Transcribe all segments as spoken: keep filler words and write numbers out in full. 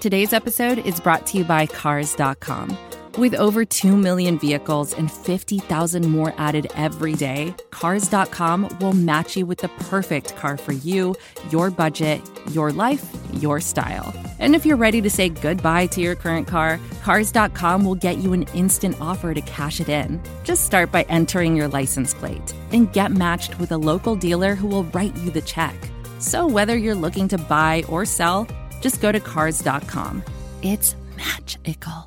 Today's episode is brought to you by Cars dot com. With over two million vehicles and fifty thousand more added every day, Cars dot com will match you with the perfect car for you, your budget, your life, your style. And if you're ready to say goodbye to your current car, Cars dot com will get you an instant offer to cash it in. Just start by entering your license plate and get matched with a local dealer who will write you the check. So whether you're looking to buy or sell, just go to Cars dot com. It's magical.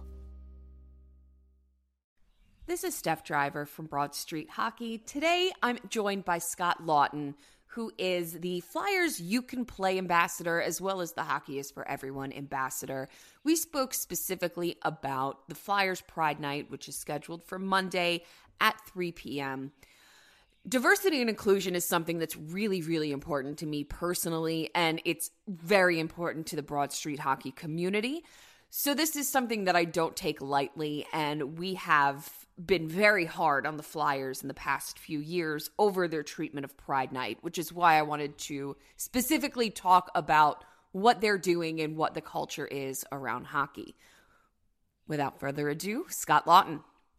This is Steph Driver from Broad Street Hockey. Today, I'm joined by Scott Laughton, who is the Flyers You Can Play ambassador, as well as the Hockey is for Everyone ambassador. We spoke specifically about the Flyers Pride Night, which is scheduled for Monday at three p.m. Diversity and inclusion is something that's really, really important to me personally, and it's very important to the Broad Street Hockey community. So this is something that I don't take lightly, and we have been very hard on the Flyers in the past few years over their treatment of Pride Night, which is why I wanted to specifically talk about what they're doing and what the culture is around hockey. Without further ado, Scott Laughton.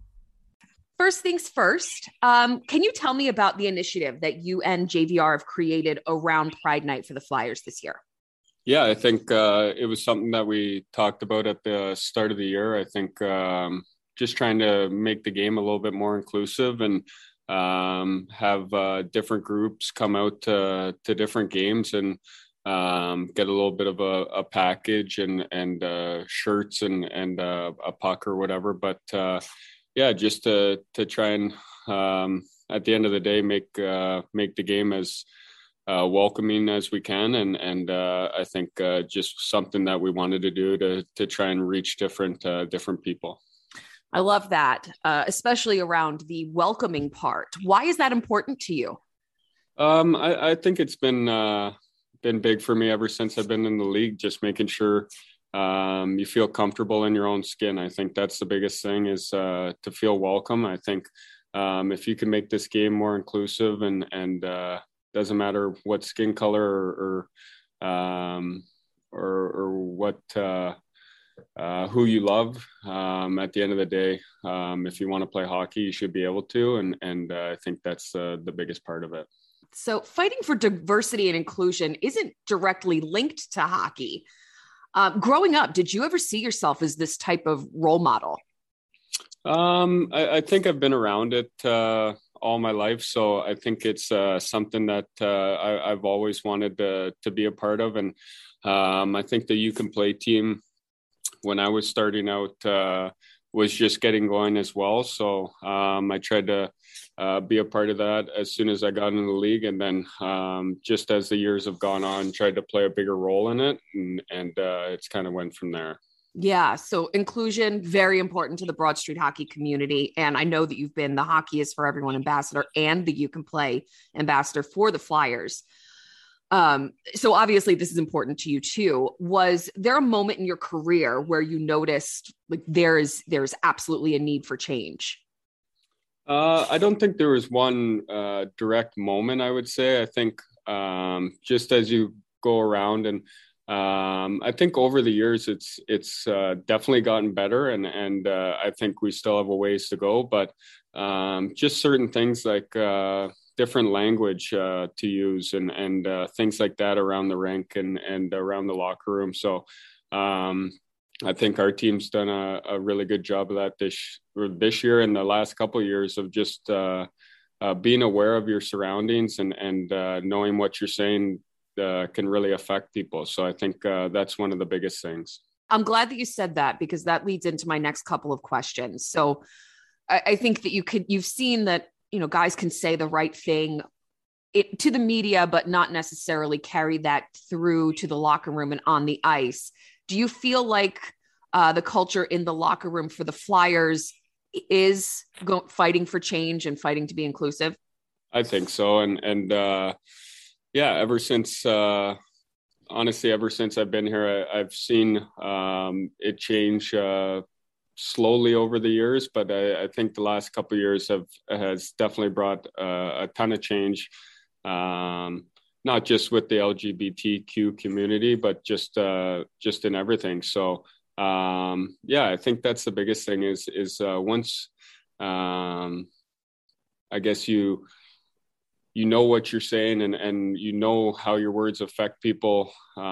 First things first, um, can you tell me about the initiative that you and J V R have created around Pride Night for the Flyers this year? Yeah, I think uh, it was something that we talked about at the start of the year. I think um, just trying to make the game a little bit more inclusive and um, have uh, different groups come out to, to different games and um, get a little bit of a, a package and and uh, shirts and and uh, a puck or whatever. But uh, yeah, just to to try and um, at the end of the day make uh, make the game as uh, welcoming as we can, and and uh, I think uh, just something that we wanted to do to to try and reach different uh, different people. I love that, uh, especially around the welcoming part. Why is that important to you? Um, I, I think it's been uh, been big for me ever since I've been in the league. Just making sure um, you feel comfortable in your own skin. I think that's the biggest thing, is uh, to feel welcome. I think um, if you can make this game more inclusive and and uh, doesn't matter what skin color or or um, or, or what. Uh, Uh, who you love. Um, at the end of the day, um, if you want to play hockey, you should be able to. And, and uh, I think that's uh, the biggest part of it. So fighting for diversity and inclusion isn't directly linked to hockey. Um, growing up, did you ever see yourself as this type of role model? Um, I, I think I've been around it uh, all my life. So I think it's uh, something that uh, I, I've always wanted to, to be a part of. And um, I think the You Can Play team, when I was starting out, uh, was just getting going as well. So um, I tried to uh, be a part of that as soon as I got into the league. And then um, just as the years have gone on, tried to play a bigger role in it. And, and uh, it's kind of went from there. Yeah. So inclusion, very important to the Broad Street Hockey community. And I know that you've been the Hockey is for Everyone ambassador and the You Can Play ambassador for the Flyers. Um, so obviously this is important to you too. Was there a moment in your career where you noticed like there is, there's absolutely a need for change? Uh, I don't think there was one uh, direct moment, I would say. I think um, just as you go around and um, I think over the years, it's, it's uh, definitely gotten better. And, and uh, I think we still have a ways to go, but um, just certain things like uh, different language uh, to use and, and uh, things like that around the rink and, and around the locker room. So um, I think our team's done a, a really good job of that this, this year and the last couple of years of just uh, uh, being aware of your surroundings and, and uh, knowing what you're saying uh, can really affect people. So I think uh, that's one of the biggest things. I'm glad that you said that, because that leads into my next couple of questions. So I, I think that you could, you've seen that, you know, guys can say the right thing it, to the media, but not necessarily carry that through to the locker room and on the ice. Do you feel like uh, the culture in the locker room for the Flyers is go- fighting for change and fighting to be inclusive? I think so. And, and uh, yeah, ever since, uh, honestly, ever since I've been here, I, I've seen um, it change uh, slowly over the years, but I, I think the last couple of years have has definitely brought uh, a ton of change. Um, not just with the L G B T Q community, but just uh, just in everything. So um, yeah, I think that's the biggest thing is is uh, once um, I guess you you know what you're saying and, and you know how your words affect people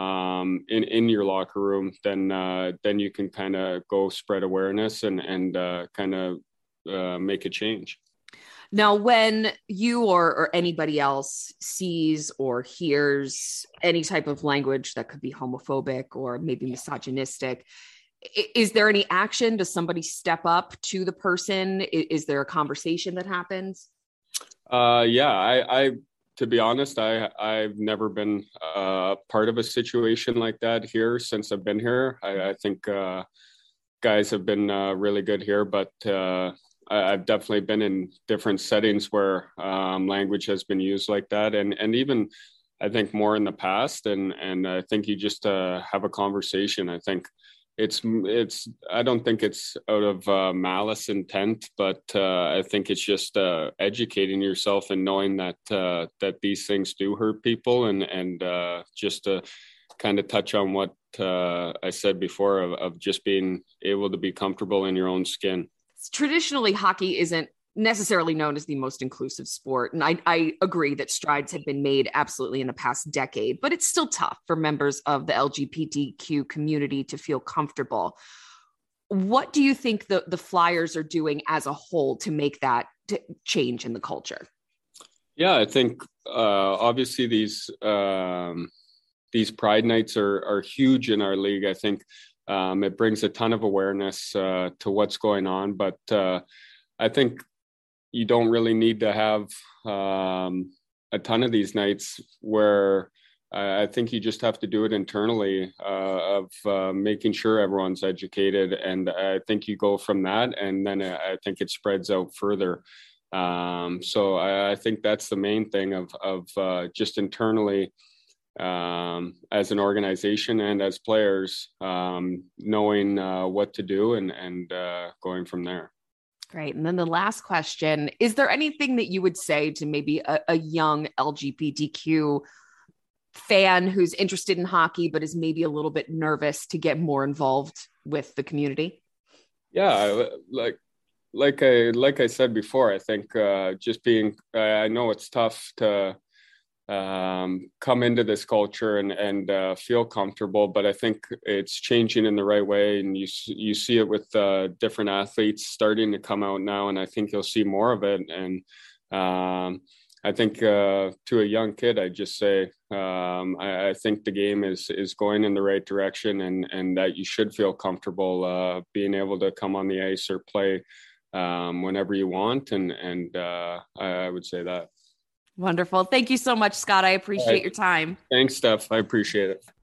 um, in, in your locker room, then uh, then you can kind of go spread awareness and, and uh, kind of uh, make a change. Now, when you or, or anybody else sees or hears any type of language that could be homophobic or maybe misogynistic, is there any action? Does somebody step up to the person? Is, is there a conversation that happens? Uh, yeah, I, I, to be honest, I, I've never been uh, part of a situation like that here since I've been here. I, I think uh, guys have been uh, really good here, but uh, I, I've definitely been in different settings where um, language has been used like that. And, and even I think more in the past. And, and I think you just uh, have a conversation. I think It's it's. I don't think it's out of uh, malice intent, but uh, I think it's just uh, educating yourself and knowing that uh, that these things do hurt people, and and uh, just to kind of touch on what uh, I said before of, of just being able to be comfortable in your own skin. Traditionally, hockey isn't necessarily known as the most inclusive sport. And I, I agree that strides have been made absolutely in the past decade, but it's still tough for members of the L G B T Q community to feel comfortable. What do you think the, the Flyers are doing as a whole to make that t- change in the culture? Yeah, I think uh, obviously these um, these Pride Nights are, are huge in our league. I think um, it brings a ton of awareness uh, to what's going on, but uh, I think you don't really need to have um, a ton of these nights where uh, I think you just have to do it internally uh, of uh, making sure everyone's educated. And I think you go from that, and then I think it spreads out further. Um, so I, I think that's the main thing of, of uh, just internally um, as an organization and as players, um, knowing uh, what to do and, and uh, going from there. Great. And then the last question, is there anything that you would say to maybe a, a young L G B T Q fan who's interested in hockey, but is maybe a little bit nervous to get more involved with the community? Yeah, like, like I, like I said before, I think uh, just being, I know it's tough to um, come into this culture and, and uh, feel comfortable, but I think it's changing in the right way. And you, you see it with uh, different athletes starting to come out now, and I think you'll see more of it. And um, I think uh, to a young kid, I just say, um, I, I think the game is, is going in the right direction, and, and that you should feel comfortable uh, being able to come on the ice or play um, whenever you want. And, and uh, I, I would say that. Wonderful. Thank you so much, Scott. I appreciate right. your time. Thanks, Steph. I appreciate it.